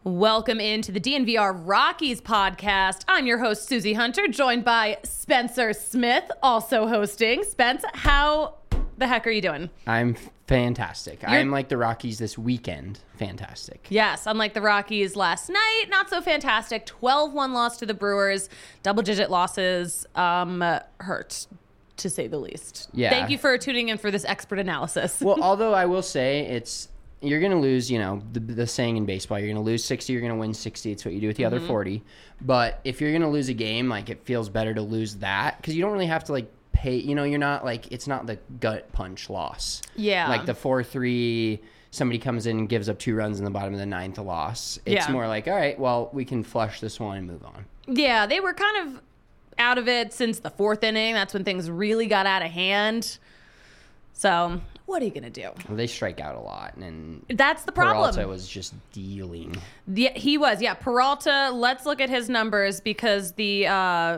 Welcome into the DNVR Rockies podcast. I'm your host, Susie Hunter, joined by Spencer Smith, also hosting. Spence, how the heck are you doing? I'm fantastic. I'm like the Rockies this weekend. Fantastic. Yes, unlike the Rockies last night, not so fantastic. 12-1 loss to the Brewers. Double-digit losses hurt, to say the least. Yeah. Thank you for tuning in for this expert analysis. Well, although I will say you're going to lose, the saying in baseball, you're going to lose 60, you're going to win 60. It's what you do with the other 40. But if you're going to lose a game, it feels better to lose that because you don't really have to, pay. You're not, it's not the gut punch loss. Yeah. Like the 4-3, somebody comes in and gives up 2 runs in the bottom of the 9th, a loss. It's more like, all right, well, we can flush this one and move on. Yeah, they were kind of out of it since the 4th inning. That's when things really got out of hand. So what are you going to do? Well, they strike out a lot, and that's the problem. Peralta was just dealing. Yeah, he was. Yeah, Peralta, let's look at his numbers because he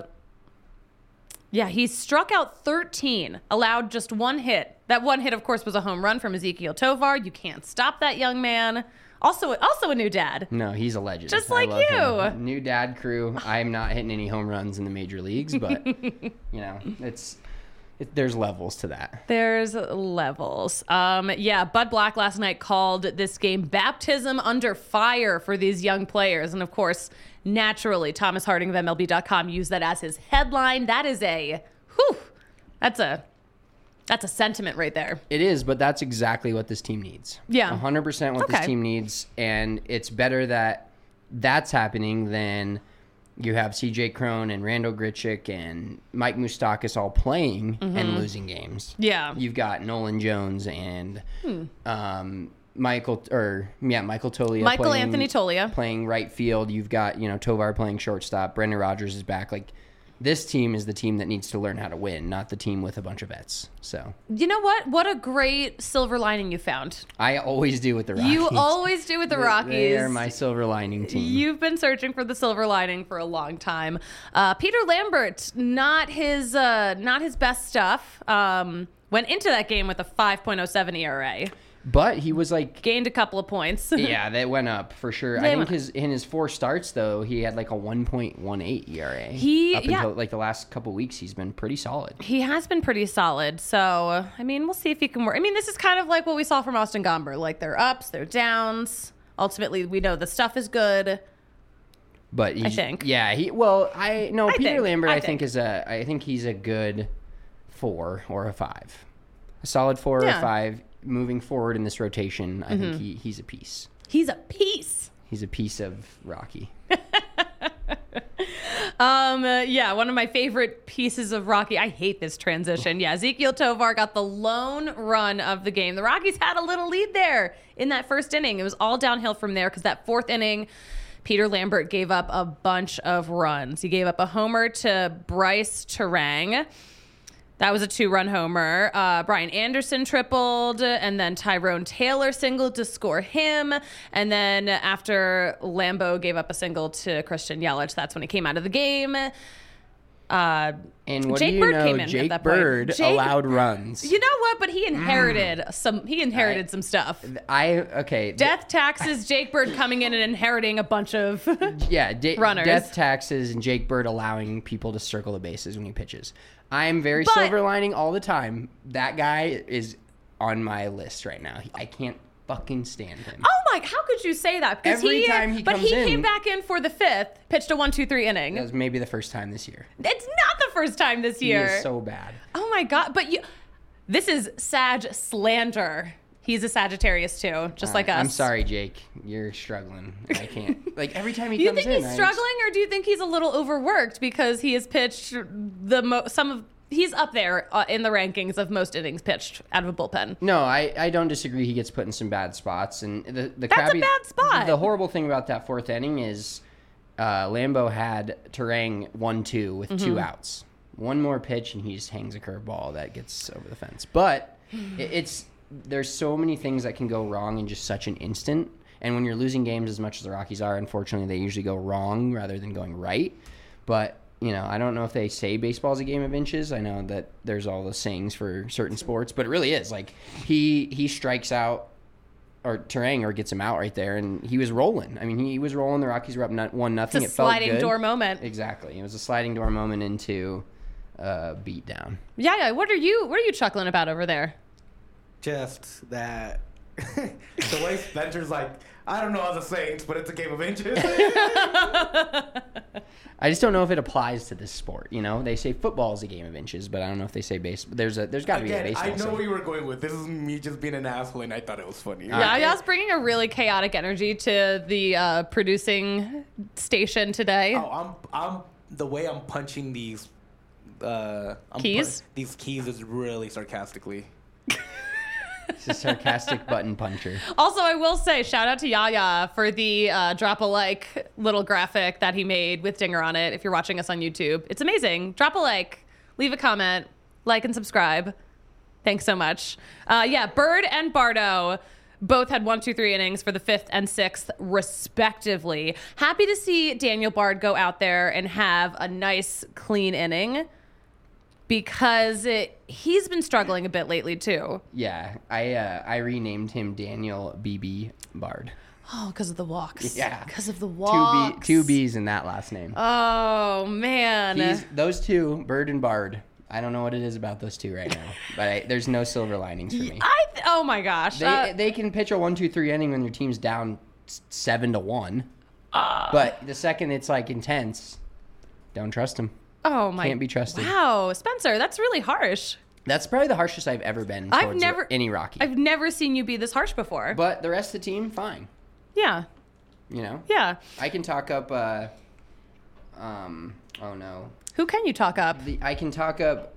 struck out 13, allowed just 1 hit. That 1 hit, of course, was a home run from Ezequiel Tovar. You can't stop that young man. Also a new dad. No, he's a legend. Just like you. Him. New dad crew. I'm not hitting any home runs in the major leagues, but, there's levels to that. There's levels. Bud Black last night called this game baptism under fire for these young players. And, of course, naturally, Thomas Harding of MLB.com used that as his headline. That is that's a sentiment right there. It is, but that's exactly what this team needs. Yeah. 100% what this team needs. And it's better that that's happening than you have CJ Cron and Randall Grichuk and Mike Moustakas all playing and losing games. Yeah. You've got Nolan Jones and Michael Toglia. Anthony Toglia. Playing right field. You've got, Tovar playing shortstop. Brendan Rodgers is back. This team is the team that needs to learn how to win, not the team with a bunch of vets. So, you know what? What a great silver lining you found. I always do with the Rockies. You always do with the Rockies. They are my silver lining team. You've been searching for the silver lining for a long time. Peter Lambert, not his best stuff. Went into that game with a 5.07 ERA. But he was gained a couple of points. Yeah, that went up for sure. I think in his 4 starts though, he had a 1.18 ERA. Until the last couple weeks, he's been pretty solid. He has been pretty solid. So we'll see if he can work. This is kind of like what we saw from Austin Gomber. There are ups, there are downs. Ultimately, we know the stuff is good. But I think, Peter Lambert, I think he's a good 4 or a 5, a solid 4 or a 5. Moving forward in this rotation, I think he's a piece. He's a piece. He's a piece of Rocky. One of my favorite pieces of Rocky. I hate this transition. Yeah, Ezequiel Tovar got the lone run of the game. The Rockies had a little lead there in that first inning. It was all downhill from there because that 4th inning, Peter Lambert gave up a bunch of runs. He gave up a homer to Bryce Terang. That was a 2-run homer. Brian Anderson tripled, and then Tyrone Taylor singled to score him. And then after Lambeau gave up a single to Christian Yelich, that's when he came out of the game. And what Jake do you Bird know? came in Jake at that Bird point. allowed runs. You know what? But he inherited some stuff. Death taxes, Jake Bird coming in and inheriting a bunch of runners. Death taxes and Jake Bird allowing people to circle the bases when he pitches. I'm very silver lining all the time. That guy is on my list right now. I can't fucking stand him. Oh my! How could you say that? Every time he comes in, he came back in for the 5th, pitched a 1-2-3 inning. That was maybe the first time this year. It's not the first time this year. He is so bad. Oh my God! But this is Sag slander. He's a Sagittarius too, just like us. I'm sorry, Jake. You're struggling. I can't. Every time he comes in. You think he's struggling, or do you think he's a little overworked because he has pitched he's up there in the rankings of most innings pitched out of a bullpen? No, I don't disagree. He gets put in some bad spots, and that's a bad spot. The horrible thing about that 4th inning is Lambeau had Terang 1-2 with 2 outs. One more pitch, and he just hangs a curveball that gets over the fence. But there's so many things that can go wrong in just such an instant. And when you're losing games as much as the Rockies are, unfortunately, they usually go wrong rather than going right. But I don't know if they say baseball's a game of inches. I know that there's all the sayings for certain sports, but it really is. He strikes out or Terang or gets him out right there, and he was rolling. I mean, he was rolling. The Rockies were up 1-0. It's a sliding door moment. Exactly. It was a sliding door moment into beatdown. Yeah. What are you chuckling about over there? Just that the way Spencer's like, I don't know how the Saints, but it's a game of inches. I just don't know if it applies to this sport. You know, they say football is a game of inches, but I don't know if they say baseball. There's got to be a baseball. I know where you were going with. This is me just being an asshole, and I thought it was funny. Yeah, I was bringing a really chaotic energy to the producing station today. Oh, I'm the way I'm punching these keys. These keys is really sarcastically. It's a sarcastic button puncher. Also, I will say, shout out to Yaya for the drop a like little graphic that he made with Dinger on it. If you're watching us on YouTube, it's amazing. Drop a like, leave a comment, like and subscribe. Thanks so much. Bird and Bardo both had 1, 2, 3 innings for the 5th and 6th, respectively. Happy to see Daniel Bard go out there and have a nice, clean inning. Because he's been struggling a bit lately, too. Yeah, I renamed him Daniel BB Bard. Oh, because of the walks. Yeah. Because of the walks. Two B's in that last name. Oh, man. Those two, Bird and Bard. I don't know what it is about those two right now, but there's no silver linings for me. Oh, my gosh. They can pitch a 1, 2, 3 inning when your team's down 7-1. But the second it's, like, intense, don't trust them. Oh my! Can't be trusted. Wow, Spencer, that's really harsh. That's probably the harshest I've ever been towards any Rocky. I've never seen you be this harsh before. But the rest of the team, fine. Yeah. You know? Yeah. I can talk up, oh no. Who can you talk up? I can talk up,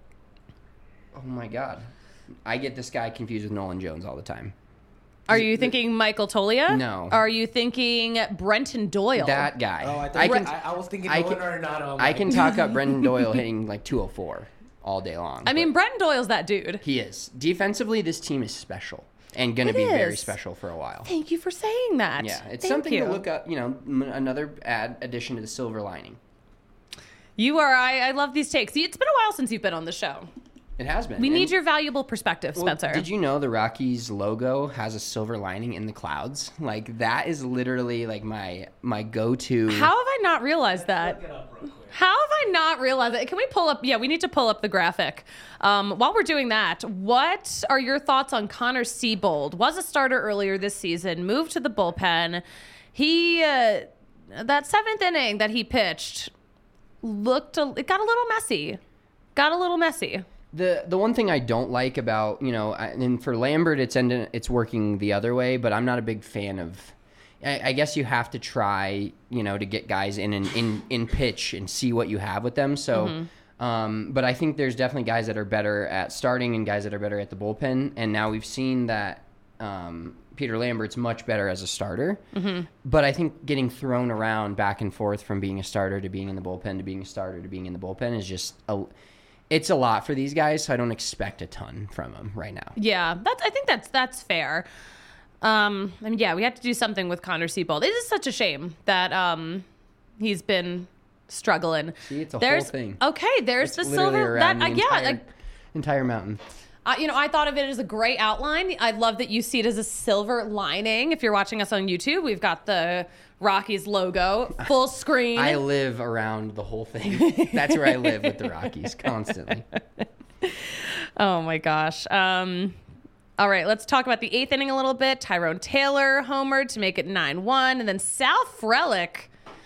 oh my God. I get this guy confused with Nolan Jones all the time. Are you thinking Michael Tolia? No. Are you thinking Brenton Doyle? That guy. Oh, I was thinking Nolan Arenado. I can talk up Brenton Doyle hitting like 204 all day long. I mean, Brenton Doyle's that dude. He is. Defensively, this team is special and going to be very special for a while. Thank you for saying that. Yeah, it's something to look up, another addition to the silver lining. You are. I love these takes. It's been a while since you've been on the show. It has been. We need your valuable perspective, Spencer. Well, did you know the Rockies logo has a silver lining in the clouds? Like, that is literally like my go-to. How have I not realized that? How have I not realized that? Can we pull up? Yeah, we need to pull up the graphic. While we're doing that, what are your thoughts on Connor Siebold? Was a starter earlier this season, moved to the bullpen. He, that 7th inning that he pitched, it got a little messy. The one thing I don't like about, and for Lambert, it's working the other way, but I'm not a big fan of. I guess you have to try, to get guys in pitch and see what you have with them. So, but I think there's definitely guys that are better at starting and guys that are better at the bullpen. And now we've seen that Peter Lambert's much better as a starter. Mm-hmm. But I think getting thrown around back and forth from being a starter to being in the bullpen to being a starter to being in the bullpen is just it's a lot for these guys, so I don't expect a ton from them right now. Yeah, I think that's fair. We have to do something with Connor Siebold. It is such a shame that he's been struggling. See, it's a whole thing. Okay, there's the silver. Entire mountain. I thought of it as a gray outline. I love that you see it as a silver lining. If you're watching us on YouTube, we've got the Rockies logo, full screen. I live around the whole thing. That's where I live with the Rockies constantly. Oh my gosh. All right, let's talk about the 8th inning a little bit. Tyrone Taylor homered to make it 9-1, and then Sal Frelick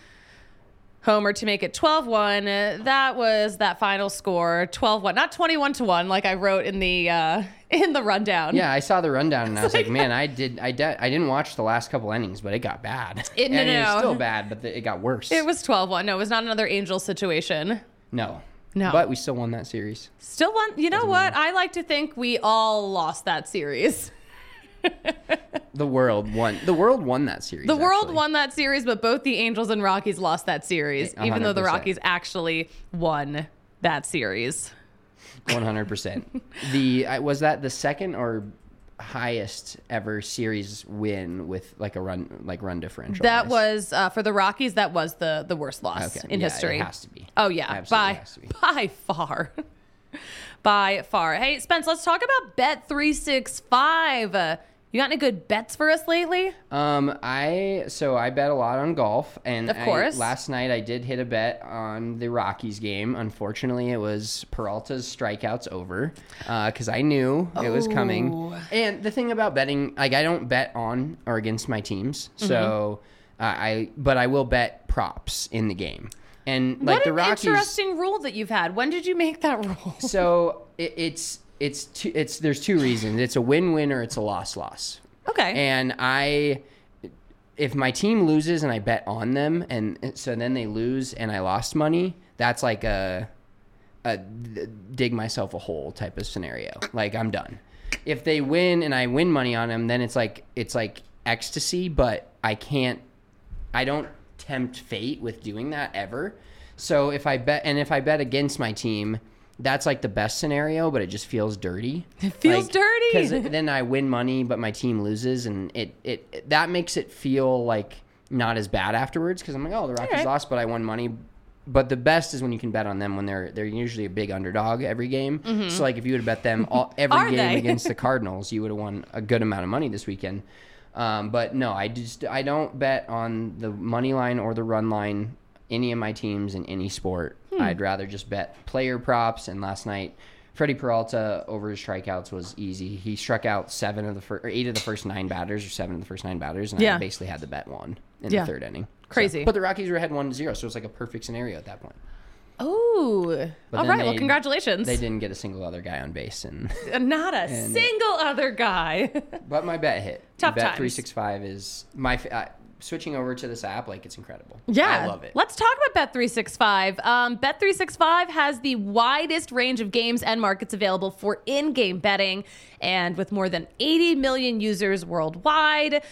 homer to make it 12-1. That was that final score, 12-1, not 21-1 like I wrote in the rundown. Yeah, I saw the rundown and I was like, man, I didn't watch the last couple innings, but it got bad. It's still bad, but it got worse. It was 12-1. No, it was not another Angels situation. No. But we still won that series. Still won. You know what? I like to think we all lost that series. The world won that series. The world won that series, but both the Angels and Rockies lost that series, 100%. Even though the Rockies actually won that series. 100%. Was that the second or highest ever series win with like a run differential? That was for the Rockies. That was the worst loss in history. It has to be. Oh yeah, by far. By far. Hey, Spence, let's talk about Bet365. You got any good bets for us lately? I bet a lot on golf, and Of course. Last night I did hit a bet on the Rockies game. Unfortunately, it was Peralta's strikeouts over because I knew it was coming. And the thing about betting, like I don't bet on or against my teams, so but I will bet props in the game. And like What the an Rockies, interesting rule that you've had. When did you make that rule? so it's there's two reasons. It's a win-win or it's a loss-loss. Okay. And if my team loses and I bet on them, and so then they lose and I lost money, that's like a dig myself a hole type of scenario. Like I'm done. If they win and I win money on them, then it's like ecstasy, but I don't tempt fate with doing that ever. So if I bet against my team, that's like the best scenario, but it just feels dirty. It feels dirty. Because then I win money, but my team loses, and it that makes it feel like not as bad afterwards. Because I'm like, oh, the Rockies lost, but I won money. But the best is when you can bet on them when they're usually a big underdog every game. Mm-hmm. So like if you would have bet them every game against the Cardinals, you would have won a good amount of money this weekend. But no, I don't bet on the money line or the run line any of my teams in any sport. I'd rather just bet player props. And last night, Freddie Peralta over his strikeouts was easy. He struck out 8 of the first 9 batters, or 7 of the first 9 batters, and I basically had the bet won in the third inning. Crazy. So, but the Rockies were ahead 1-0, so it was like a perfect scenario at that point. Oh, all right. Well, congratulations. They didn't get a single other guy on base, and not a single other guy. But my bet hit. Tough times. Bet365 is my. Switching over to this app, like it's incredible. Yeah. I love it. Let's talk about Bet365. Bet365 has the widest range of games and markets available for in-game betting. And with more than 80 million users worldwide,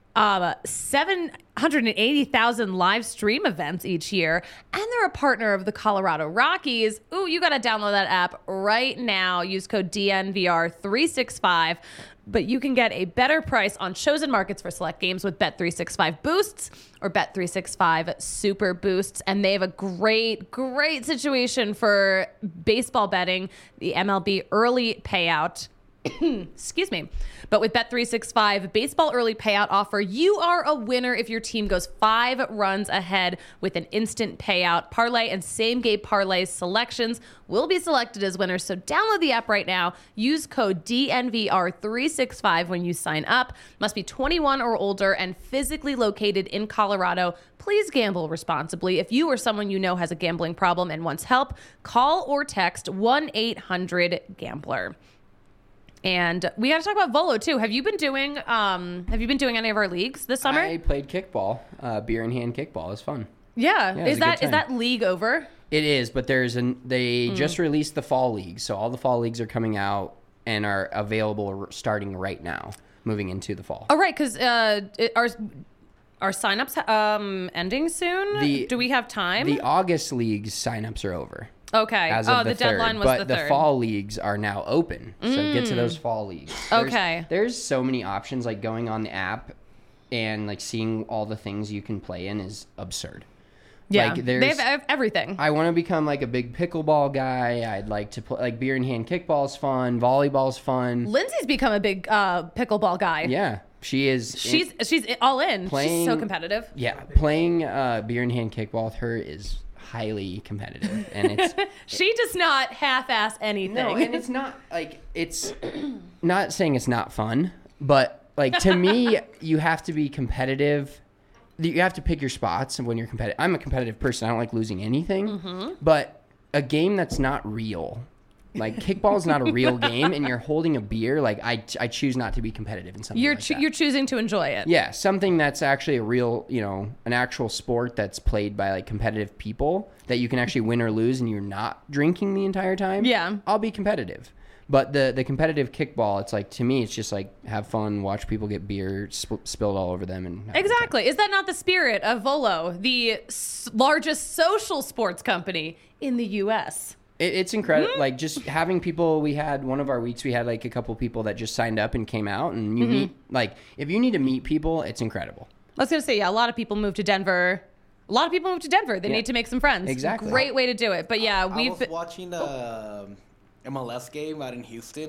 780,000 live stream events each year, and they're a partner of the Colorado Rockies. Ooh, you got to download that app right now. Use code DNVR365. But you can get a better price on chosen markets for select games with Bet365 Boosts or Bet365 Super Boosts. And they have a great, great situation for baseball betting, the MLB early payout. Excuse me. But with Bet365 baseball early payout offer, you are a winner if your team goes 5 runs ahead with an instant payout. Parlay and same game parlay selections will be selected as winners. So download the app right now. Use code DNVR365 when you sign up. Must be 21 or older and physically located in Colorado. Please gamble responsibly. If you or someone you know has a gambling problem and wants help, call or text 1-800-GAMBLER. And we got to talk about Volo too. Have you been doing any of our leagues this summer? I played kickball, beer in hand kickball. It was fun. Yeah. It was Is that league over? It is, but they just released the fall leagues, so all the fall leagues are coming out and are available starting right now, moving into the fall. Oh, right, because are signups ending soon? Do we have time? The August leagues signups are over. Okay. The deadline was but the 3rd. But the fall leagues are now open. So get to those fall leagues. There's so many options. Like going on the app and like seeing all the things you can play in is absurd. Yeah, like, they have everything. I want to become like a big pickleball guy. I'd like to play like beer in hand kickball's fun. Volleyball's fun. Lindsay's become a big pickleball guy. Yeah, she is. She's all in. She's so competitive. Yeah, playing beer in hand kickball with her is highly competitive, and it's she does not half-ass anything. No, and it's not like it's not saying it's not fun, but like to me, you have to be competitive. You have to pick your spots when you're competitive. I'm a competitive person. I don't like losing anything, but a game that's not real, like kickball is not a real game, and you're holding a beer. Like I choose not to be competitive in something. You're choosing to enjoy it. Yeah, something that's actually a real, an actual sport that's played by like competitive people that you can actually win or lose, and you're not drinking the entire time. Yeah, I'll be competitive. But the competitive kickball, it's like, to me, it's just like have fun, watch people get beer spilled all over them. And exactly. Is that not the spirit of Volo, the largest social sports company in the U.S.? It's incredible. Like just having people, one of our weeks, we had like a couple people that just signed up and came out, and you meet, like if you need to meet people, it's incredible. I was going to say, yeah, a lot of people move to Denver. They need to make some friends. Exactly. Great way to do it. But yeah, I was watching the MLS game out in Houston,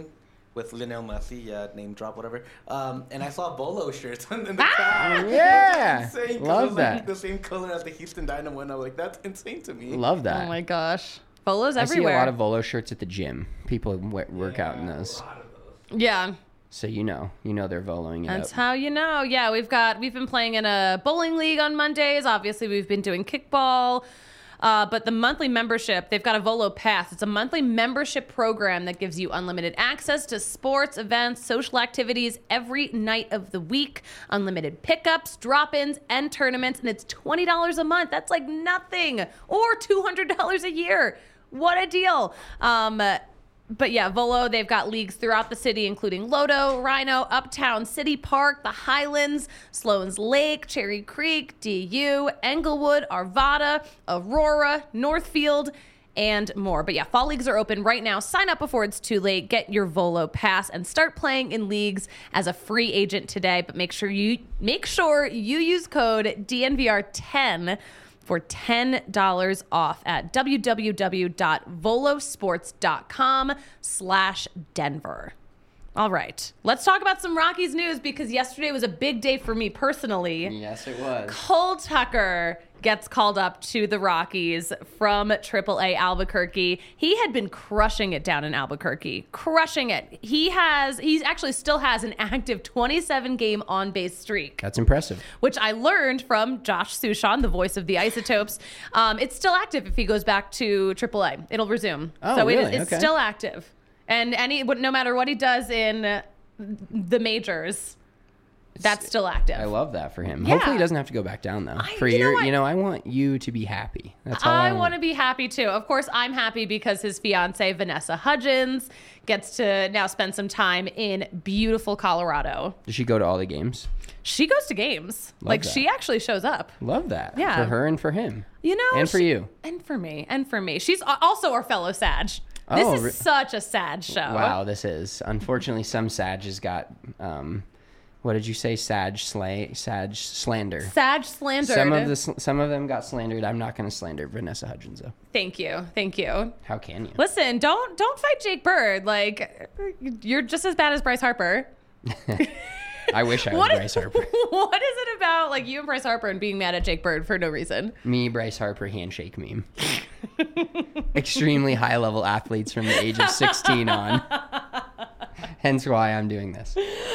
with Lionel Messi, name drop, whatever. And I saw Volo shirts in the crowd. Yeah. Insane, 'cause it Love was, that. like, the same color as the Houston Dynamo, and I'm like, that's insane to me. Love that. Oh my gosh. Polos I everywhere. see a lot of Volo shirts at the gym. People work out in those. A lot of those. Yeah. So you know they're Voloing it That's up. how you know. Yeah, we've been playing in a bowling league on Mondays. Obviously, we've been doing kickball. But the monthly membership, they've got a Volo Pass. It's a monthly membership program that gives you unlimited access to sports, events, social activities every night of the week, unlimited pickups, drop-ins, and tournaments, and it's $20 a month. That's like nothing, or $200 a year. What a deal. But yeah, Volo, they've got leagues throughout the city, including Lodo, Rhino, Uptown, City Park, the Highlands, Sloan's Lake, Cherry Creek, DU, Englewood, Arvada, Aurora, Northfield, and more. But yeah, fall leagues are open right now. Sign up before it's too late. Get your Volo Pass and start playing in leagues as a free agent today. But make sure you use code DNVR10 for $10 off at www.volosports.com/Denver. All right, let's talk about some Rockies news because yesterday was a big day for me personally. Yes, it was. Cole Tucker gets called up to the Rockies from AAA Albuquerque. He had been crushing it down in Albuquerque, crushing it. He actually still has an active 27-game on-base streak. That's impressive. Which I learned from Josh Sushan, the voice of the Isotopes. It's still active if he goes back to AAA. It'll resume. Oh, so really? it's Okay. still active. And no matter what he does in the majors, that's still active. I love that for him. Yeah. Hopefully he doesn't have to go back down though. I want you to be happy. That's all I want to be happy too. Of course, I'm happy because his fiance Vanessa Hudgens gets to now spend some time in beautiful Colorado. Does she go to all the games? She goes to games. Love that. She actually shows up. Love that. Yeah. For her and for him. And for you. And for me. She's also our fellow Sag. This Oh, is such a sad show. Wow, this is. Unfortunately, some Sag has got, what did you say? Sag slander. Sag slandered. Some of them got slandered. I'm not going to slander Vanessa Hudgens though. Thank you. How can you? Listen, don't fight Jake Bird. Like, you're just as bad as Bryce Harper. I wish I was Bryce Harper. What is it about like you and Bryce Harper and being mad at Jake Bird for no reason? Me, Bryce Harper handshake meme. Extremely high level athletes from the age of 16 on. Hence why I'm doing this.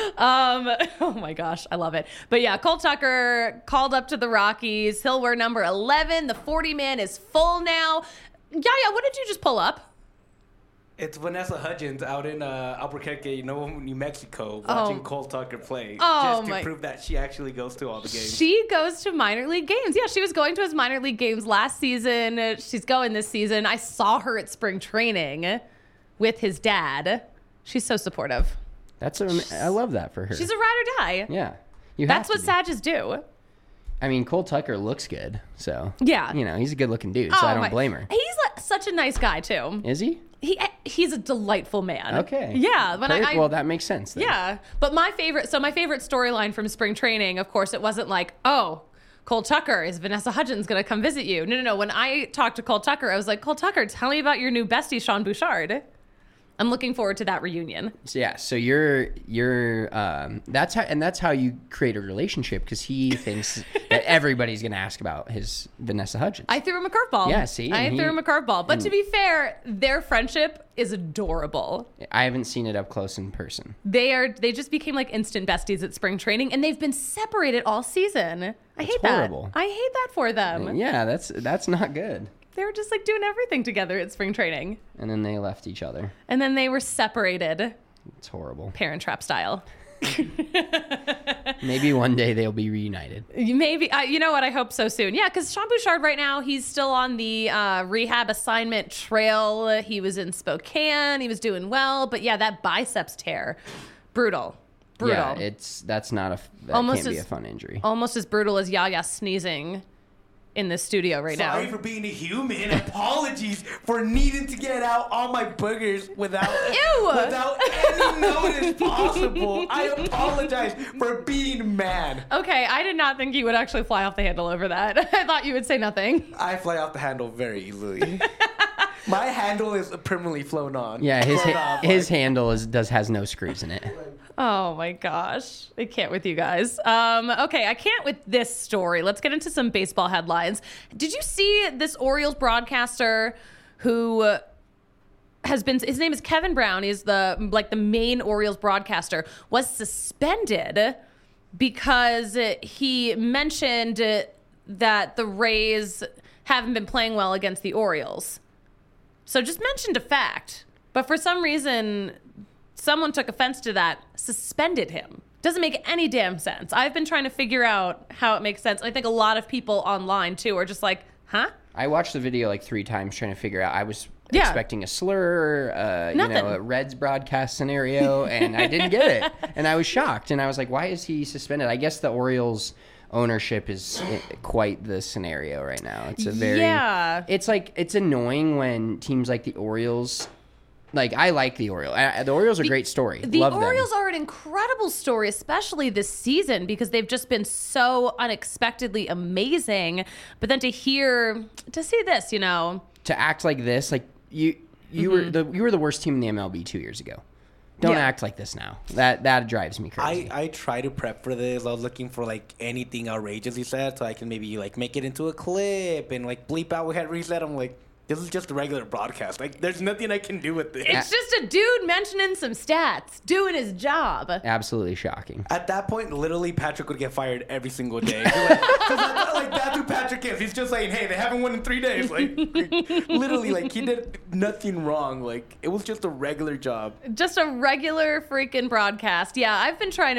Oh my gosh, I love it. But yeah, Cole Tucker called up to the Rockies. He'll wear number 11. The 40-man is full now. Yaya, what did you just pull up? It's Vanessa Hudgens out in Albuquerque, New Mexico, watching Cole Tucker play. Oh, just to prove that she actually goes to all the games. She goes to minor league games. Yeah, she was going to his minor league games last season. She's going this season. I saw her at spring training with his dad. She's so supportive. I love that for her. She's a ride or die. Yeah. That's what Sages do. I mean, Cole Tucker looks good, so. Yeah. He's a good looking dude, so I don't blame her. He's such a nice guy, too. Is he? He's a delightful man. Okay. Yeah. Well, that makes sense then. Yeah. But my favorite storyline from spring training, of course, it wasn't like, oh, Cole Tucker, is Vanessa Hudgens going to come visit you? No. When I talked to Cole Tucker, I was like, Cole Tucker, tell me about your new bestie, Sean Bouchard. I'm looking forward to that reunion. So yeah, so that's how you create a relationship because he thinks that everybody's gonna ask about his Vanessa Hudgens. I threw him a curveball. Yeah, see, I threw him a curveball. But to be fair, their friendship is adorable. I haven't seen it up close in person. They just became like instant besties at spring training, and they've been separated all season. I hate horrible. that. I hate that for them. Yeah, that's not good. They were just like doing everything together at spring training. And then they left each other. And then they were separated. It's horrible. Parent Trap style. Maybe one day they'll be reunited. Maybe. You know what? I hope so soon. Yeah, because Sean Bouchard right now, he's still on the rehab assignment trail. He was in Spokane. He was doing well. But yeah, that biceps tear. Brutal. Yeah, that can't be a fun injury. Almost as brutal as Yaya sneezing in the studio right now. Sorry for being a human. Apologies for needing to get out all my boogers without any notice possible. I apologize for being mad. Okay, I did not think you would actually fly off the handle over that. I thought you would say nothing. I fly off the handle very easily. My handle is permanently flown on. Yeah, Flown off, his handle has no screws in it. Oh my gosh. I can't with you guys. Okay, I can't with this story. Let's get into some baseball headlines. Did you see this Orioles broadcaster who has been, his name is Kevin Brown. He's the main Orioles broadcaster, was suspended because he mentioned that the Rays haven't been playing well against the Orioles. So just mentioned a fact, but for some reason someone took offense to that, suspended him. Doesn't make any damn sense. I've been trying to figure out how it makes sense. I think a lot of people online too are just like, huh? I watched the video like 3 times trying to figure out. I was expecting a slur, a Reds broadcast scenario, and I didn't get it. And I was shocked. And I was like, why is he suspended? I guess the Orioles ownership is quite the scenario right now. It's a very, it's like, it's annoying when teams like the Orioles, like, I like the Orioles. The Orioles are a great story. The Love Orioles them. are an incredible story, especially this season, because they've just been so unexpectedly amazing. But then to see this, you know, to act like this, like you were the worst team in the MLB 2 years ago. Don't act like this now. That drives me crazy. I try to prep for this. I was looking for like anything outrageous he said, so I can maybe like make it into a clip and like bleep out whatever he said. I'm like, this is just a regular broadcast. Like, there's nothing I can do with this. It's just a dude mentioning some stats, doing his job. Absolutely shocking. At that point, literally, Patrick would get fired every single day. That's who Patrick is. He's just saying, hey, they haven't won in 3 days. Like, literally, like, he did nothing wrong. Like, it was just a regular job. Just a regular freaking broadcast. Yeah, I've been trying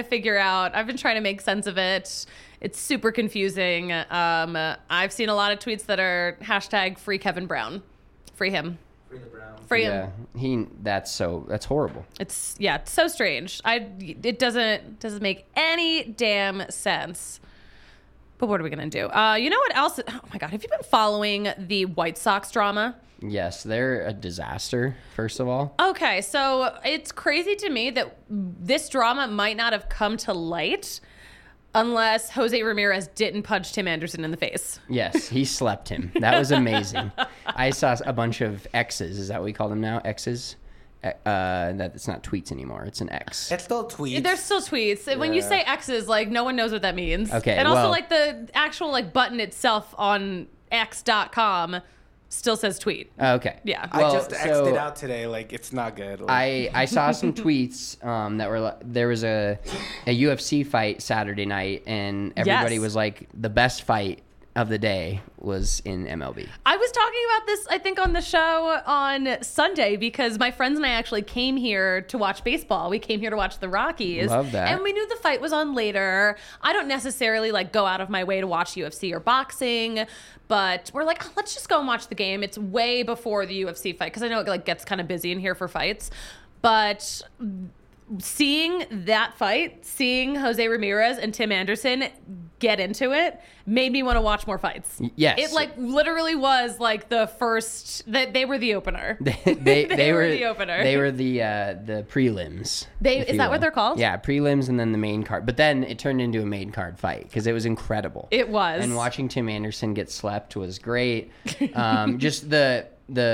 to make sense of it. It's super confusing. I've seen a lot of tweets that are hashtag free Kevin Brown. Free him. Free the Brown. Free him. Yeah, that's horrible. It's so strange. It doesn't make any damn sense. But what are we gonna do? You know what else? Oh my God, have you been following the White Sox drama? Yes, they're a disaster, first of all. Okay, so it's crazy to me that this drama might not have come to light unless Jose Ramirez didn't punch Tim Anderson in the face. Yes, he slept him. That was amazing. I saw a bunch of X's. Is that what we call them now? X's? That it's not tweets anymore. It's an X. It's still tweets. There's still tweets. When you say X's, like, no one knows what that means. Okay, and also, like, the actual, like, button itself on x.com still says tweet. Okay. Yeah. I just X'd it out today. Like, it's not good. Like, I saw some tweets that were there was a UFC fight Saturday night, and everybody was like, the best fight of the day was in MLB. I was talking about this, I think, on the show on Sunday because my friends and I actually came here to watch baseball. We came here to watch the Rockies. Love that. And we knew the fight was on later. I don't necessarily like go out of my way to watch UFC or boxing, but we're like, let's just go and watch the game. It's way before the UFC fight because I know it like gets kind of busy in here for fights. But seeing that fight, seeing Jose Ramirez and Tim Anderson get into it, made me want to watch more fights. Yes. It like literally was like the first that they were the opener. They were the opener. They were the prelims. Is that what they're called? Yeah, prelims and then the main card. But then it turned into a main card fight because it was incredible. It was. And watching Tim Anderson get slept was great. Just the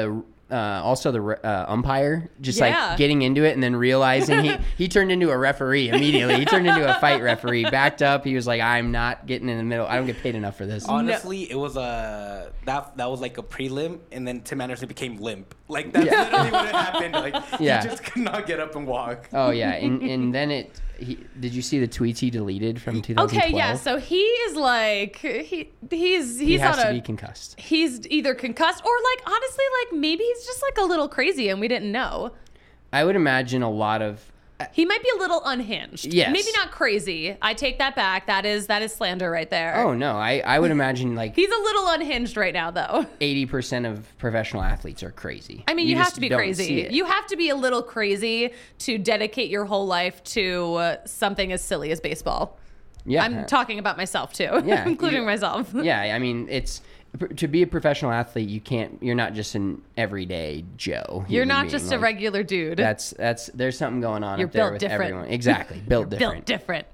also the umpire just like getting into it and then realizing he turned into a referee immediately. He turned into a fight referee, backed up. He was like, I'm not getting in the middle. I don't get paid enough for this. Honestly, it was that was like a prelim, and then Tim Anderson became limp. Like that's literally what had happened. Like he just could not get up and walk. Oh yeah, and then did you see the tweets he deleted from 2012? Okay, yeah. So he is like he has to be concussed. He's either concussed or like honestly like maybe he's just like a little crazy and we didn't know. I would imagine a lot of. He might be a little unhinged. Yes. Maybe not crazy. I take that back. That is slander right there. Oh no, I would imagine like he's a little unhinged right now though. 80% of professional athletes are crazy. I mean, you have to be crazy. You have to be a little crazy to dedicate your whole life to something as silly as baseball. Yeah. I'm talking about myself too. Yeah. Including myself. Yeah, I mean, to be a professional athlete, you're not just an everyday Joe. You're not just like, a regular dude. There's something going on You're up there built with different. everyone. Exactly. Built different. Built different.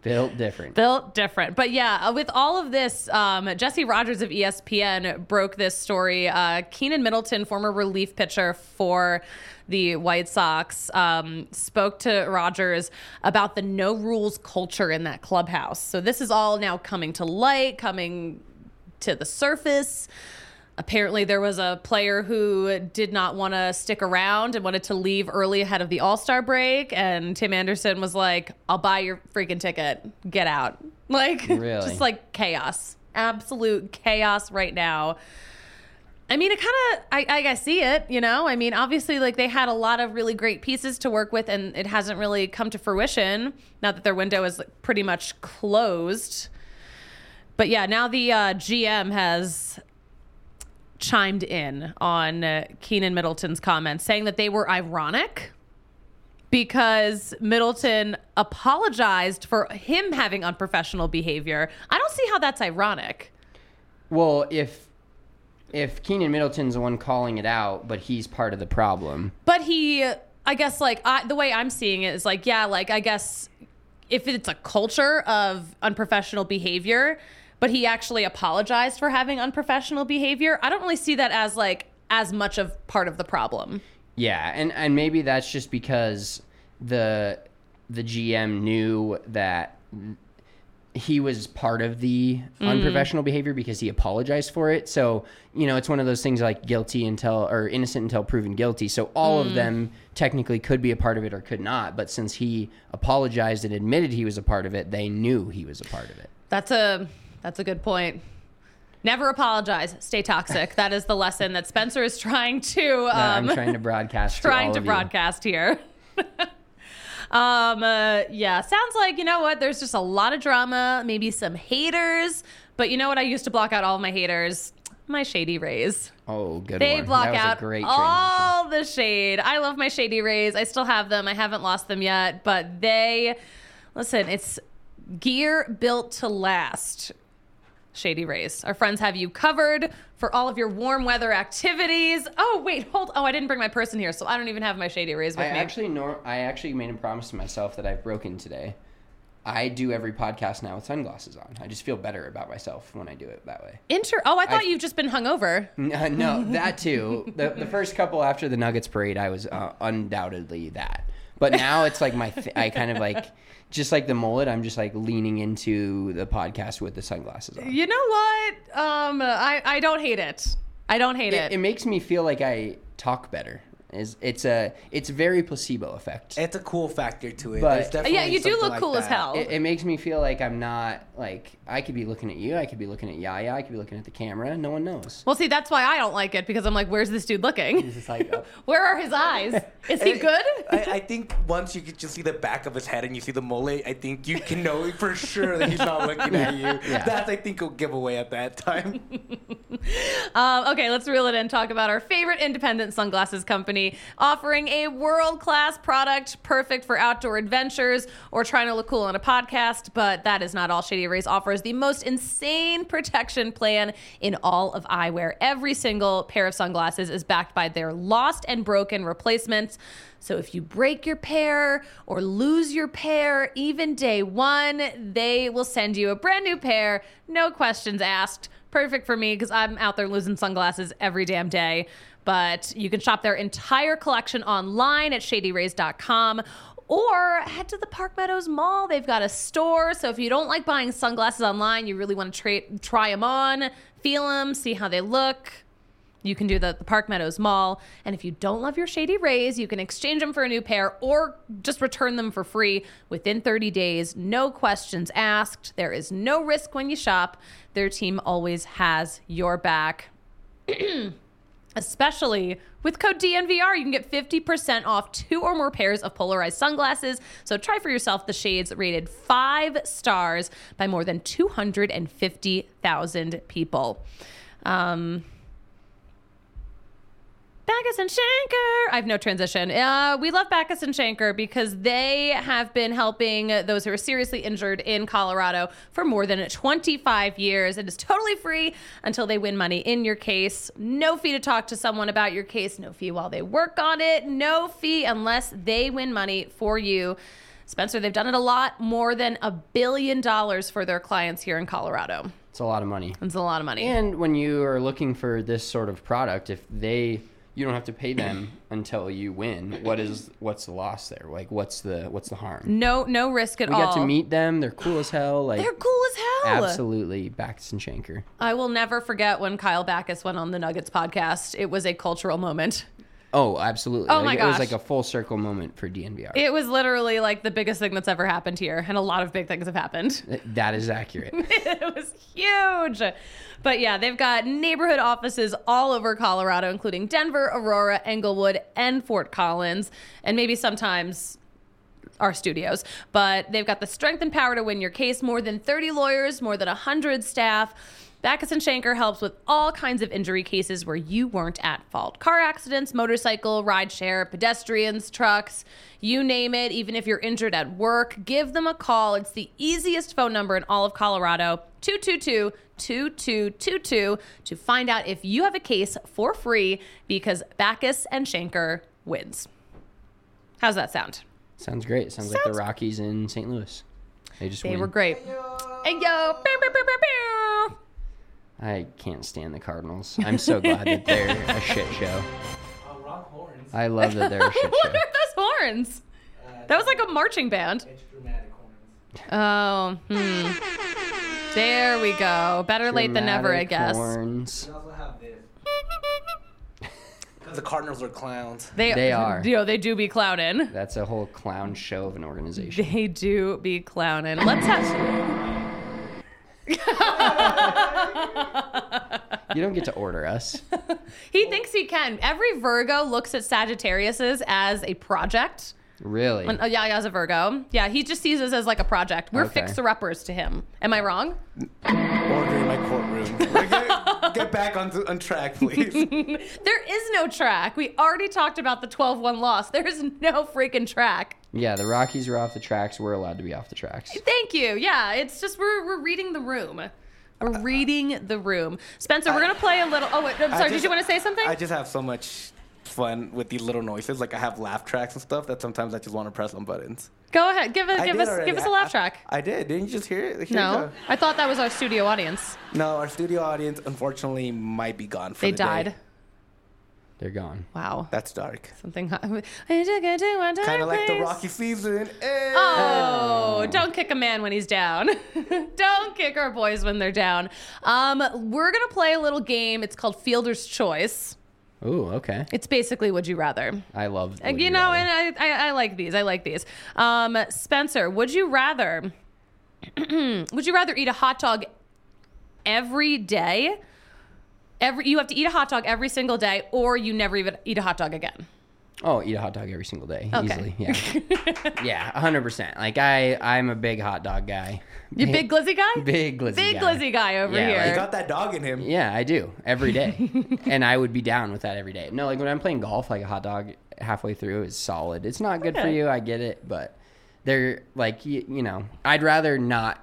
Built different. Built different. But yeah, with all of this, Jesse Rogers of ESPN broke this story. Keenan Middleton, former relief pitcher for the White Sox, spoke to Rogers about the no rules culture in that clubhouse. So this is all now coming to light, coming to the surface. Apparently there was a player who did not want to stick around and wanted to leave early ahead of the All-Star break. And Tim Anderson was like, I'll buy your freaking ticket. Get out. Like, Really? Just like chaos. Absolute chaos right now. I mean, it kind of, I see it, you know? I mean, obviously, like, they had a lot of really great pieces to work with, and it hasn't really come to fruition now that their window is pretty much closed. But yeah, now the GM has chimed in on Keenan Middleton's comments, saying that they were ironic because Middleton apologized for him having unprofessional behavior. I don't see how that's ironic. Well, if Keenan Middleton's the one calling it out, but he's part of the problem. But he, I guess, like, the way I'm seeing it is like, yeah, like, I guess if it's a culture of unprofessional behavior, but he actually apologized for having unprofessional behavior, I don't really see that as, like, as much of part of the problem. Yeah, and maybe that's just because the GM knew that he was part of the unprofessional behavior because he apologized for it. So, you know, it's one of those things like innocent until proven guilty. So all of them technically could be a part of it or could not. But since he apologized and admitted he was a part of it, they knew he was a part of it. That's a good point. Never apologize. Stay toxic. That is the lesson that Spencer is trying to I'm trying to broadcast to all of you. broadcast here. Yeah, sounds like, you know what, there's just a lot of drama, maybe some haters, but you know what, I used to block out all of my haters? My Shady Rays. Oh, good They one. block That was out a great all the shade. I love my Shady Rays. I still have them. I haven't lost them yet, but listen, it's gear built to last. Shady Rays. Our friends have you covered for all of your warm weather activities. Oh, wait, I didn't bring my purse in here, so I don't even have my Shady Rays with me. I actually made a promise to myself that I've broken today. I do every podcast now with sunglasses on. I just feel better about myself when I do it that way. I thought you've just been hungover. No, that too. The first couple after the Nuggets parade, I was undoubtedly that. But now it's like I kind of like, just like the mullet, I'm just like leaning into the podcast with the sunglasses on. You know what? I don't hate it. I don't hate it. It makes me feel like I talk better. It's very placebo effect. It's a cool factor to it. But yeah, you do look cool as hell. It makes me feel like I'm not, like, I could be looking at you, I could be looking at Yaya, I could be looking at the camera, no one knows. Well, see, that's why I don't like it, because I'm like, where's this dude looking? It's just like, Where are his eyes? Is he good? I think once you could just see the back of his head and you see the mullet, I think you can know for sure that he's not looking at you. Yeah. That's, I think, a giveaway at that time. Okay, let's reel it in. Talk about our favorite independent sunglasses company offering a world-class product perfect for outdoor adventures or trying to look cool on a podcast. But that is not all. Shady Rays offers the most insane protection plan in all of eyewear. Every single pair of sunglasses is backed by their lost and broken replacements. So if you break your pair or lose your pair, even day one, they will send you a brand new pair, no questions asked. Perfect for me because I'm out there losing sunglasses every damn day. But you can shop their entire collection online at shadyrays.com or head to the Park Meadows Mall. They've got a store. So if you don't like buying sunglasses online, you really want to try them on, feel them, see how they look, you can do the Park Meadows Mall. And if you don't love your Shady Rays, you can exchange them for a new pair or just return them for free within 30 days. No questions asked. There is no risk when you shop. Their team always has your back. Especially with code DNVR, you can get 50% off 2 or more pairs of polarized sunglasses. So try for yourself the shades rated 5 stars by more than 250,000 people. Backus and Schenker. I have no transition. We love Backus and Schenker because they have been helping those who are seriously injured in Colorado for more than 25 years. It is totally free until they win money in your case. No fee to talk to someone about your case. No fee while they work on it. No fee unless they win money for you. Spencer, they've done it a lot, more than $1 billion for their clients here in Colorado. It's a lot of money. It's a lot of money. And when you are looking for this sort of product, if you don't have to pay them until you win, what's the loss there? Like, what's the harm? No risk at all. We got to meet them. They're cool as hell. Like, They're cool as hell. Absolutely. Backus and Schenker. I will never forget when Kyle Backus went on the Nuggets podcast. It was a cultural moment. Oh, absolutely. Oh, my It was gosh. like a full circle moment for DNVR. It was literally like the biggest thing that's ever happened here, and a lot of big things have happened. That is accurate. It was huge. But yeah, they've got neighborhood offices all over Colorado, including Denver, Aurora, Englewood, and Fort Collins, and maybe sometimes our studios. But they've got the strength and power to win your case, more than 30 lawyers, more than 100 staff. Backus and Schenker helps with all kinds of injury cases where you weren't at fault. Car accidents, motorcycle, rideshare, pedestrians, trucks, you name it. Even if you're injured at work, give them a call. It's the easiest phone number in all of Colorado, 222-2222, to find out if you have a case for free, because Backus and Schenker wins. How's that sound? Sounds great. Sounds like the Rockies in St. Louis. They were great. Hey, yo. Pew, pew, pew, pew, pew. I can't stand the Cardinals. I'm so glad that they're a shit show. Rock horns. I love that they're a shit What show. are those horns? That was like a marching band. It's dramatic horns. Oh, There we go. Better late than never, I Dramatic guess. Horns. We also have this. Because the Cardinals are clowns. They are. You know, they do be clowning. That's a whole clown show of an organization. They do be clowning. Let's have... You don't get to order us. He thinks he can. Every Virgo looks at Sagittarius's as a project. Really? Yeah, as a Virgo. Yeah, he just sees us as like a project. We're Okay. fixer-uppers to him. Am I wrong? Order in my courtroom. Get back on track, please. There is no track. We already talked about the 12-1 loss. There is no freaking track. Yeah, the Rockies are off the tracks. We're allowed to be off the tracks. Thank you. Yeah, it's just we're reading the room. We're reading the room. Spencer, we're going to play a little... Oh, wait. I'm sorry. Did you want to say something? I just have so much fun with these little noises. Like, I have laugh tracks and stuff that sometimes I just want to press on buttons. Go ahead. Give I did us already. a laugh track. I did. Didn't you just hear it? Here you No. go. I thought that was our studio audience. No, our studio audience, unfortunately, might be gone for They the day. died. They're gone. Wow. That's dark. Something... Kind of like the Rocky season. Hey! Oh, don't kick a man when he's down. Don't kick our boys when they're down. We're going to play a little game. It's called Fielder's Choice. Ooh, okay. It's basically Would You Rather. I love Would You You know, Rather. and I like these. I like these. Spencer, would you rather eat a hot dog every day? You have to eat a hot dog every single day, or you never even eat a hot dog again. Oh, eat a hot dog every single day. Okay. Easily. Yeah. Yeah, 100%. Like, I'm a big hot dog guy. You big glizzy guy? Big glizzy Big guy. glizzy guy over Yeah, here. He got that dog in him. Yeah, I do. Every day. And I would be down with that every day. No, like when I'm playing golf, like a hot dog halfway through is solid. It's not good for Okay. you. I get it. But they're like, you know, I'd rather not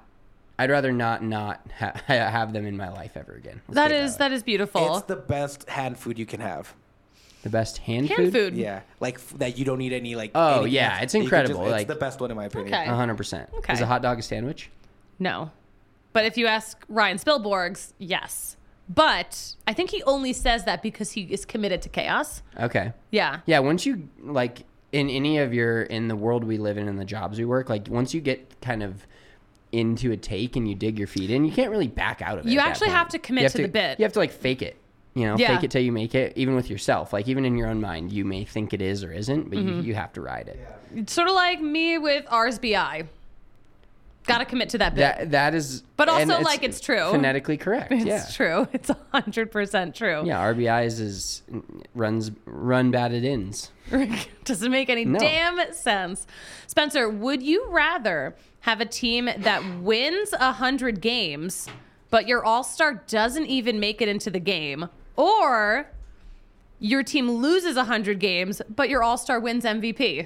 have them in my life ever again. Let's put it that is beautiful. It's the best hand food you can have. the best hand food. Yeah, like that you don't need any like. Oh, anything yeah, else. it's You can incredible, it's like- the best one in my opinion. Okay. 100%. Okay. Is a hot dog a sandwich? No. But if you ask Ryan Spielborgs, yes. But I think he only says that because he is committed to chaos. Okay. Yeah. Yeah, once you, like, in the world we live in and the jobs we work, like, once you get kind of into a take and you dig your feet in, you can't really back out of it. You at that actually point. have to commit You have to the bit. You have to, like, fake it. You know, Yeah. fake it till you make it, even with yourself. Like, even in your own mind, you may think it is or isn't, but Mm-hmm. you have to ride it. It's sort of like me with RSBI. Got to commit to that bit. That is... But and also, like, it's true. Phonetically correct, It's yeah. true. It's 100% true. Yeah, RBIs is run batted ins. Doesn't make any No. damn sense. Spencer, would you rather have a team that wins 100 games, but your all-star doesn't even make it into the game, or your team loses 100 games, but your all-star wins MVP?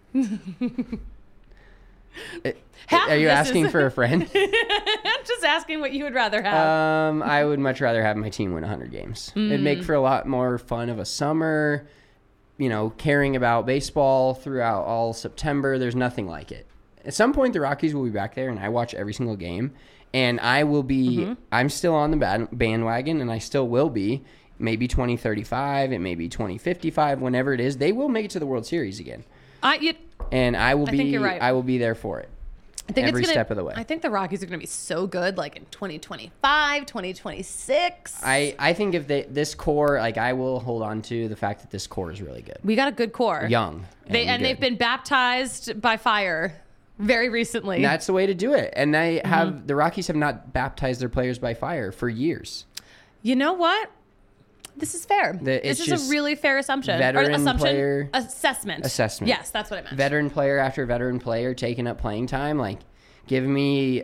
Half Are of you this asking is- for a friend? I'm just asking what you would rather have. I would much rather have my team win 100 games. It'd Mm. make for a lot more fun of a summer. You know, caring about baseball throughout all September. There's nothing like it. at some point the Rockies will be back there, and I watch every single game, and I will be. I'm still on the bandwagon, and I still will be. Maybe 2035, it may be 2055, whenever it is, they will make it to the World Series again. And I will be. think you're right. I will be there for it. I think every it's gonna, step of the way. I think the Rockies are going to be so good, like in 2025, 2026. I think if this core, like I will hold on to the fact that this core is really good, We got a good core. young, and they've good. been baptized by fire very recently. And that's the way to do it. And they have the Rockies have not baptized their players by fire for years. You know what? This is fair. It's This is just a really fair assumption. veteran player- Assessment. Assessment. That's what I meant. Veteran player after veteran player taking up playing time, like give me,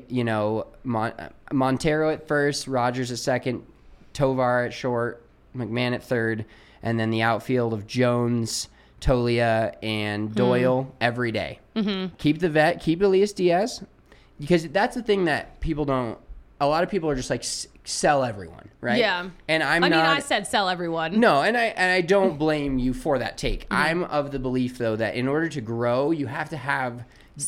Montero at first, Rogers at second, Tovar at short, McMahon at third, and then the outfield of Jones, Tolia, and Doyle every day. Mm-hmm. Keep the vet, keep Elias Diaz, because that's the thing that people don't. A lot of people are just like sell everyone, right? Yeah. And I said sell everyone. No, and I don't blame you for that take. I'm of the belief though that in order to grow, you have to have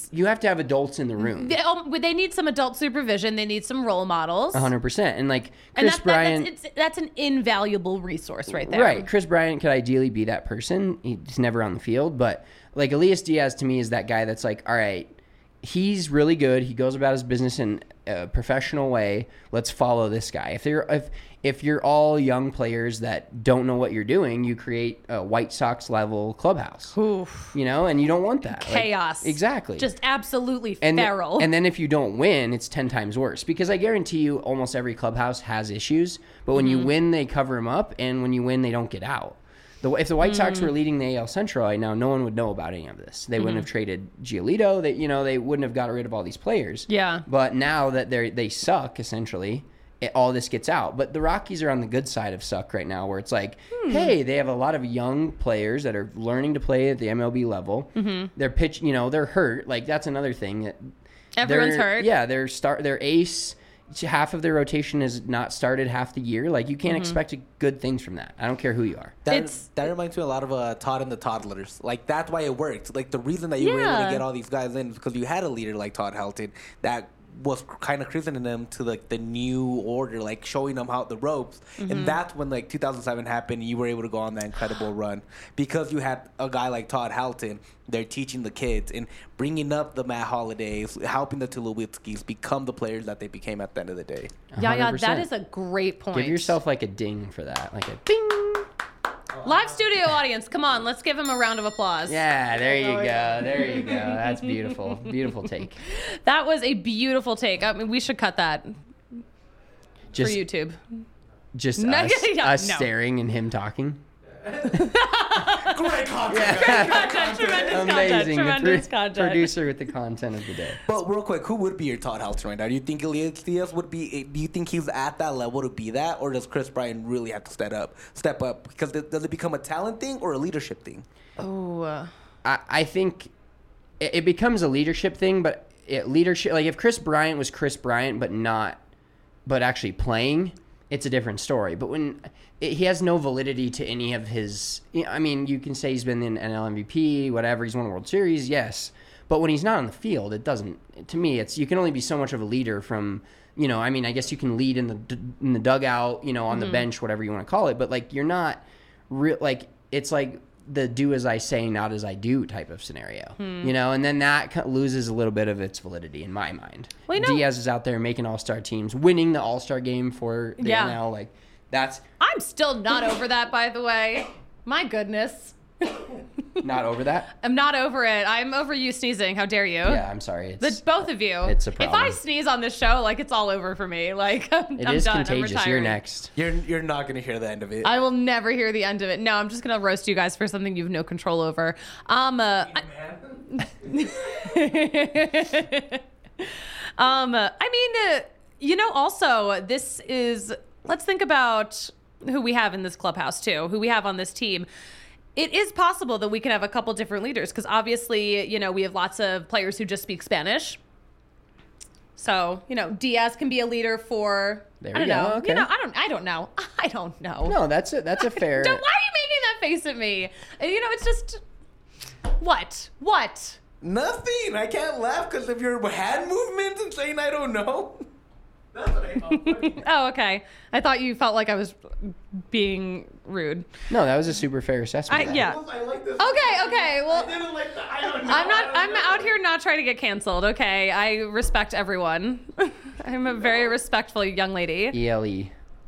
adults in the room. They need some adult supervision. They need some role models. 100%. And like Chris Bryant, that's an invaluable resource right there. right? Chris Bryant could ideally be that person. He's never on the field, but like Elias Diaz to me is that guy that's like, all right, he's really good. He goes about his business in a professional way. Let's follow this guy. If you're all young players that don't know what you're doing, you create a White Sox level clubhouse. Oof. And you don't want that. Chaos. Exactly. Just absolutely and feral. And then if you don't win, it's 10 times worse. Because I guarantee you almost every clubhouse has issues. But when you win, they cover them up. And when you win, they don't get out. If the White Sox were leading the AL Central right now, no one would know about any of this. They wouldn't have traded Giolito. They wouldn't have got rid of all these players. Yeah. But now that they suck, essentially, all this gets out. But the Rockies are on the good side of suck right now, where it's like, hey, they have a lot of young players that are learning to play at the MLB level. Mm-hmm. They're they're hurt. Like that's another thing that Everyone's hurt. Yeah, their ace. Half of their rotation is not started half the year. Like you can't expect good things from that. I don't care who you are. That reminds me a lot of Todd and the Toddlers. Like that's why it worked. Like the reason that you were able to get all these guys in is because you had a leader like Todd Helton that was kind of christening them to like the new order, like showing them how the ropes. And that's when like 2007 happened. You were able to go on that incredible run because you had a guy like Todd Helton. They're teaching the kids and bringing up the Matt Holidays, helping the Tulowitzkis become the players that they became at the end of the day. Yeah, 100%. that is a great point. Give yourself like a ding for that, like a ding. Live studio audience, come on, let's give him a round of applause. Yeah, there you go. There you go. That's beautiful. Beautiful take. That was a beautiful take. I mean, we should cut that Just for YouTube. Just No, us no. staring and him talking. Great content. Amazing. Tremendous The content. producer with the content of the day. But real quick, who would be your Todd Helton right now? Do you think Elias Diaz would be? Do you think he's at that level to be that, or does Chris Bryant really have to step up? Because does it become a talent thing or a leadership thing? Oh, I think it becomes a leadership thing, but leadership, like if Chris Bryant was Chris Bryant, but actually playing, it's a different story. But when he has no validity to any of his, I mean, you can say he's been in NL MVP, whatever, he's won a World Series, yes. But when he's not on the field, it doesn't. To me, you can only be so much of a leader from, I mean, I guess you can lead in the dugout, on the bench, whatever you want to call it. But like, you're not real. Like it's like the do as I say, not as I do type of scenario, and then that loses a little bit of its validity in my mind. Well, Diaz is out there making all-star teams, winning the all-star game for the NL. Like that's I'm still not over that, by the way. My goodness. not over that. I'm not over it. I'm over you sneezing. How dare you? Yeah, I'm sorry. Both of you. It's a If problem. I sneeze on this show, like it's all over for me. Like I'm It is done. contagious. I'm You're retiring. next. You're not gonna hear the end of it. I will never hear the end of it. No, I'm just gonna roast you guys for something you have no control over. Also, this is, let's think about who we have in this clubhouse too, who we have on this team. It is possible that we can have a couple different leaders because obviously, we have lots of players who just speak Spanish. So, Diaz can be a leader for, There I we don't know. go, okay. I don't know. I don't know. No, that's a fair. Why are you making that face at me? And, it's just, what? Nothing. I can't laugh because of your hand movements and saying I don't know. That's what I found funny. Oh, okay. I thought you felt like I was being rude. No, that was a super fair assessment. Yeah. I like this. Okay. Well, I didn't like the I don't know. I'm out here not trying to get canceled. Okay. I respect everyone. I'm a very respectful young lady. ELE.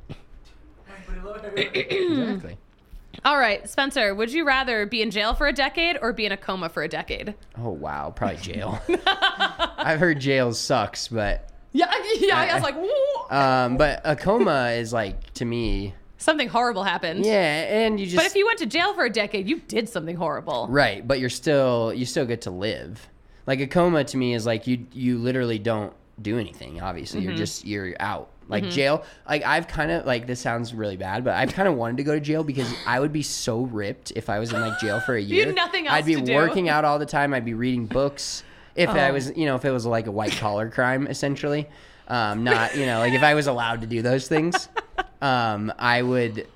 Exactly. All right, Spencer, would you rather be in jail for a decade or be in a coma for a decade? Oh wow, probably jail. I've heard jail sucks, but Yeah, I was like, woo. but a coma is like, to me, Something horrible happened. yeah, and you just But if you went to jail for a decade, you did something horrible. right, but you still get to live. Like a coma to me is like you literally don't do anything. Obviously, you're out. Like jail, like I've kind of like, this sounds really bad, but I've kind of wanted to go to jail because I would be so ripped if I was in like jail for a year. had nothing else I'd be to do. working out all the time. I'd be reading books. If I was, if it was like a white collar crime, essentially, not, like if I was allowed to do those things, I would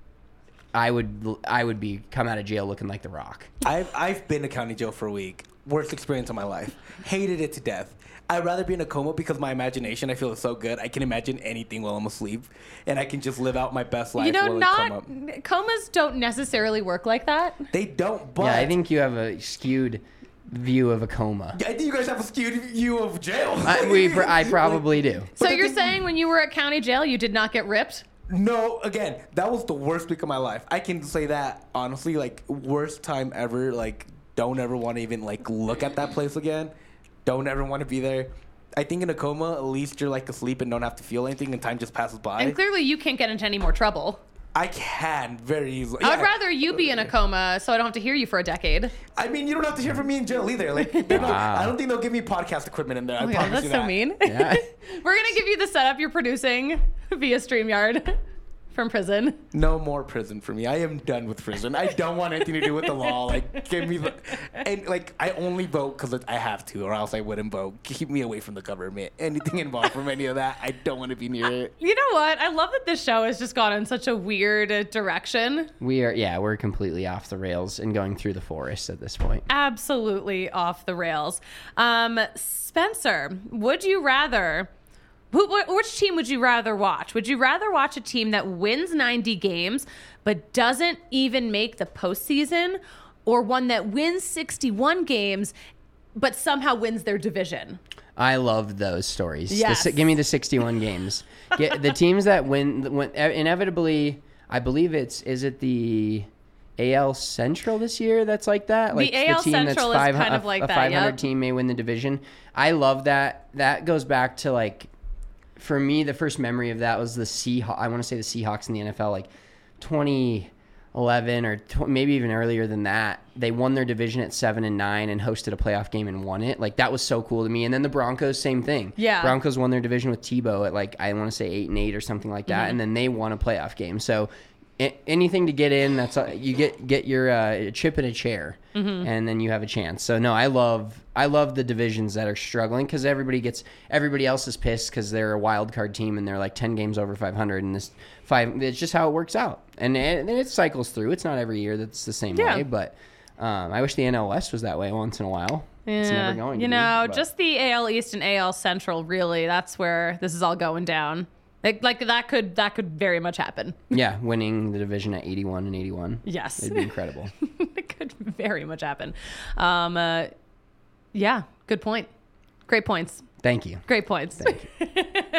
be come out of jail looking like The Rock. I've been to county jail for a week. Worst experience of my life. Hated it to death. I'd rather be in a coma because my imagination, I feel, is so good. I can imagine anything while I'm asleep, and I can just live out my best life. while I come up. Comas don't necessarily work like that. They don't. But Yeah, I think you have a skewed view of a coma. I think you guys have a skewed view of jail. I probably do. So the you're thing- saying when you were at county jail, you did not get ripped? No, again, that was the worst week of my life. I can say that honestly, like worst time ever. Like, don't ever want to even like look at that place again. Don't ever want to be there. I think in a coma, at least you're like asleep and don't have to feel anything, and time just passes by. And clearly you can't get into any more trouble. I can very easily. I would Yeah. rather you be in a coma so I don't have to hear you for a decade. I mean, you don't have to hear from me in jail either. Like, I don't think they'll give me podcast equipment in there. I Oh my God, promise that's you so that. mean. Yeah. We're going to give you the setup you're producing via StreamYard from prison. No more prison for me. I am done with prison. I don't want anything to do with the law. Like, give me the... And, like, I only vote because I have to, or else I wouldn't vote. Keep me away from the government. Anything involved from any of that, I don't want to be near it. You know what? I love that this show has just gone in such a weird direction. We're completely off the rails and going through the forest at this point. Absolutely off the rails. Spencer, would you rather... Which team would you rather watch? Would you rather watch a team that wins 90 games but doesn't even make the postseason, or one that wins 61 games but somehow wins their division? I love those stories. Yes. Give me the 61 games. Get the teams that win inevitably. I believe is it the AL Central this year that's like that? Like The AL Central is kind of like a that, 500 yep. team may win the division. I love that. That goes back to like, for me, the first memory of that was the Seahawks. I want to say the Seahawks in the NFL, like 2011 or maybe even earlier than that. They won their division at 7-9 and hosted a playoff game and won it. Like, that was so cool to me. And then the Broncos, same thing. Yeah. Broncos won their division with Tebow at like, I want to say 8-8 or something like that. And then they won a playoff game. So anything to get in, that's you get your chip in a chair, and then you have a chance. So no, I love the divisions that are struggling because everybody else is pissed because they're a wild card team and they're like 10 games over 500, and it's just how it works out, and it cycles through. It's not every year that's the same way, but I wish the NL West was that way once in a while. It's never going to be, just the AL East and AL Central, really, that's where this is all going down. Like that could very much happen. Yeah, winning the division at 81 and 81. Yes. It'd be incredible. It could very much happen. Yeah, good point. Great points. Thank you. Great points. Thank you.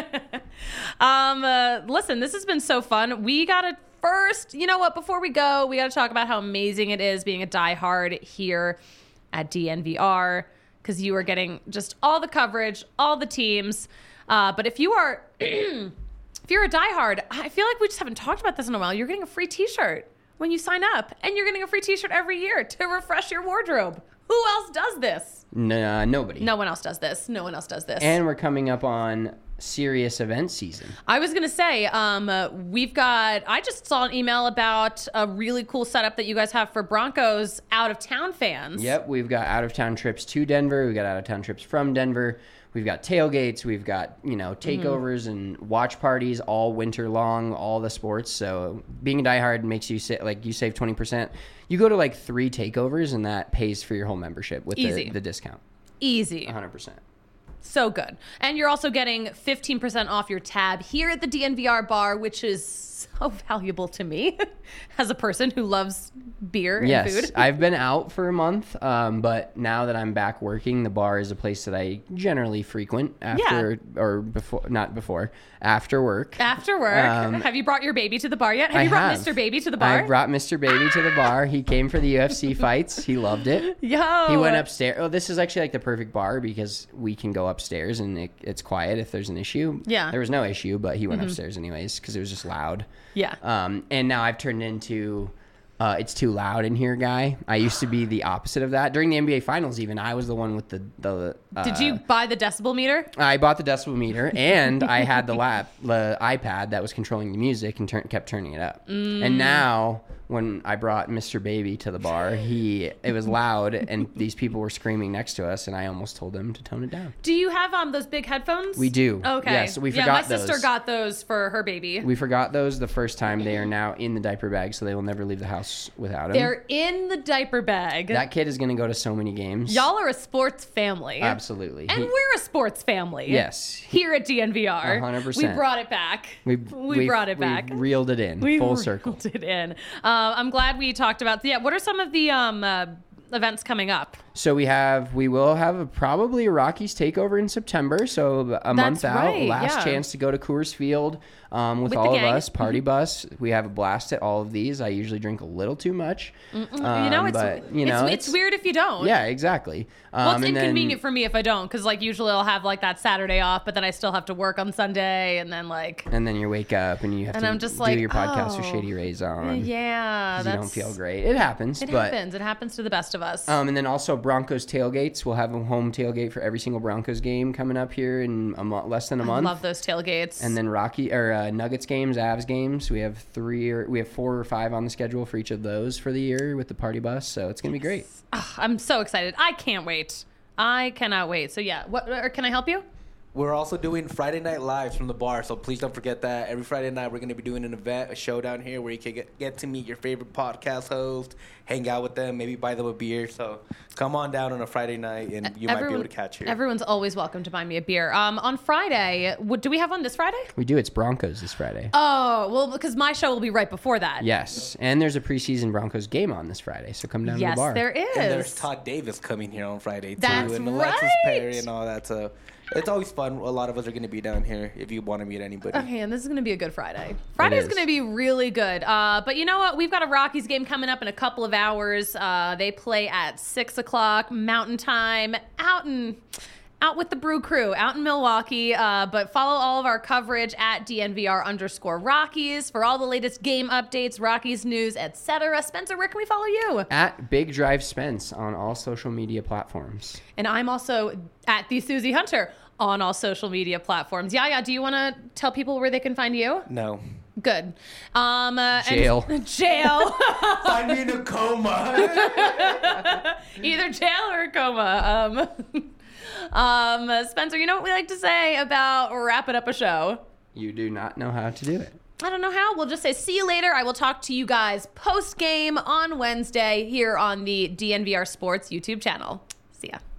Listen, this has been so fun. We got to first, you know what, before we go, we got to talk about how amazing it is being a diehard here at DNVR, because you are getting just all the coverage, all the teams. But if you are... If you're a diehard, I feel like we just haven't talked about this in a while. You're getting a free t-shirt when you sign up, and you're getting a free t-shirt every year to refresh your wardrobe. Who else does this? Nobody. No one else does this. No one else does this. And we're coming up on serious event season. I was going to say, I just saw an email about a really cool setup that you guys have for Broncos out-of-town fans. Yep, we've got out-of-town trips to Denver. We've got out-of-town trips from Denver. We've got tailgates. We've got, takeovers and watch parties all winter long, all the sports. So being a diehard makes you you save 20%. You go to like 3 takeovers and that pays for your whole membership with the discount. Easy. 100%. So good. And you're also getting 15% off your tab here at the DNVR bar, which is so valuable to me as a person who loves beer and food. Yes, I've been out for a month, but now that I'm back working, the bar is a place that I generally frequent after work. After work. Have you brought your baby to the bar yet? Have you brought Mr. Baby to the bar? I brought Mr. Baby to the bar. He came for the UFC fights. He loved it. Yo. He went upstairs. Oh, this is actually like the perfect bar because we can go upstairs and it's quiet if there's an issue. Yeah. There was no issue, but he went upstairs anyways because it was just loud. Yeah. And now I've turned into it's too loud in here guy. I used to be the opposite of that. During the NBA Finals even, I was the one with the Did you buy the decibel meter? I bought the decibel meter and I had the iPad that was controlling the music and kept turning it up. And now when I brought Mr. Baby to the bar, it was loud and these people were screaming next to us and I almost told them to tone it down. Do you have those big headphones? We do. Okay. Yes, we forgot those. My sister got those for her baby. We forgot those the first time. They are now in the diaper bag, so they will never leave the house without them. They're in the diaper bag. That kid is going to go to so many games. Y'all are a sports family. Absolutely. And we're a sports family. Yes. Here at DNVR. 100%. We brought it back. We brought it back. We reeled it in. Full circle. We reeled it in. I'm glad we talked about, what are some of the events coming up? So we will have probably a Rockies takeover in September. So a month out, right, last chance to go to Coors Field with all of us. Party bus. We have a blast at all of these. I usually drink a little too much. It's weird if you don't. Yeah, exactly. Well, it's inconvenient for me if I don't, because usually I'll have that Saturday off, but then I still have to work on Sunday, and then and then you wake up and you have to I'm just do your podcast with Shady Rays on. Yeah, you don't feel great. It happens. It happens to the best of us. And then also Broncos tailgates. We'll have a home tailgate for every single Broncos game coming up here in less than a month. I love those tailgates. And then Nuggets games, Avs games. We have 4 or 5 on the schedule for each of those for the year with the party bus. So it's gonna be great. Oh, I'm so excited. I can't wait. I cannot wait. So yeah, can I help you? We're also doing Friday Night Lives from the bar, so please don't forget that. Every Friday night, we're going to be doing an event, a show down here where you can get to meet your favorite podcast host, hang out with them, maybe buy them a beer. So come on down on a Friday night, and you might be able to catch here. Everyone's always welcome to buy me a beer. On Friday, do we have one this Friday? We do. It's Broncos this Friday. Oh, well, because my show will be right before that. Yes, and there's a preseason Broncos game on this Friday, so come down to the bar. Yes, there is. And there's Todd Davis coming here on Friday, too. That's and Alexis Perry and all that, so... It's always fun. A lot of us are going to be down here if you want to meet anybody. Okay, and this is going to be a good Friday. Friday's going to be really good. But you know what? We've got a Rockies game coming up in a couple of hours. They play at 6 o'clock Mountain Time out with the Brew Crew, out in Milwaukee. But follow all of our coverage at DNVR_Rockies for all the latest game updates, Rockies news, etc. Spencer, where can we follow you? At Big Drive Spence on all social media platforms. And I'm also at the Susie Hunter on all social media platforms. Yaya, do you want to tell people where they can find you? No. Good. Jail. Jail. Find me in a coma. Either jail or a coma. Spencer, you know what we like to say about wrapping up a show? You do not know how to do it. I don't know how. We'll just say see you later. I will talk to you guys post-game on Wednesday here on the DNVR Sports YouTube channel. See ya.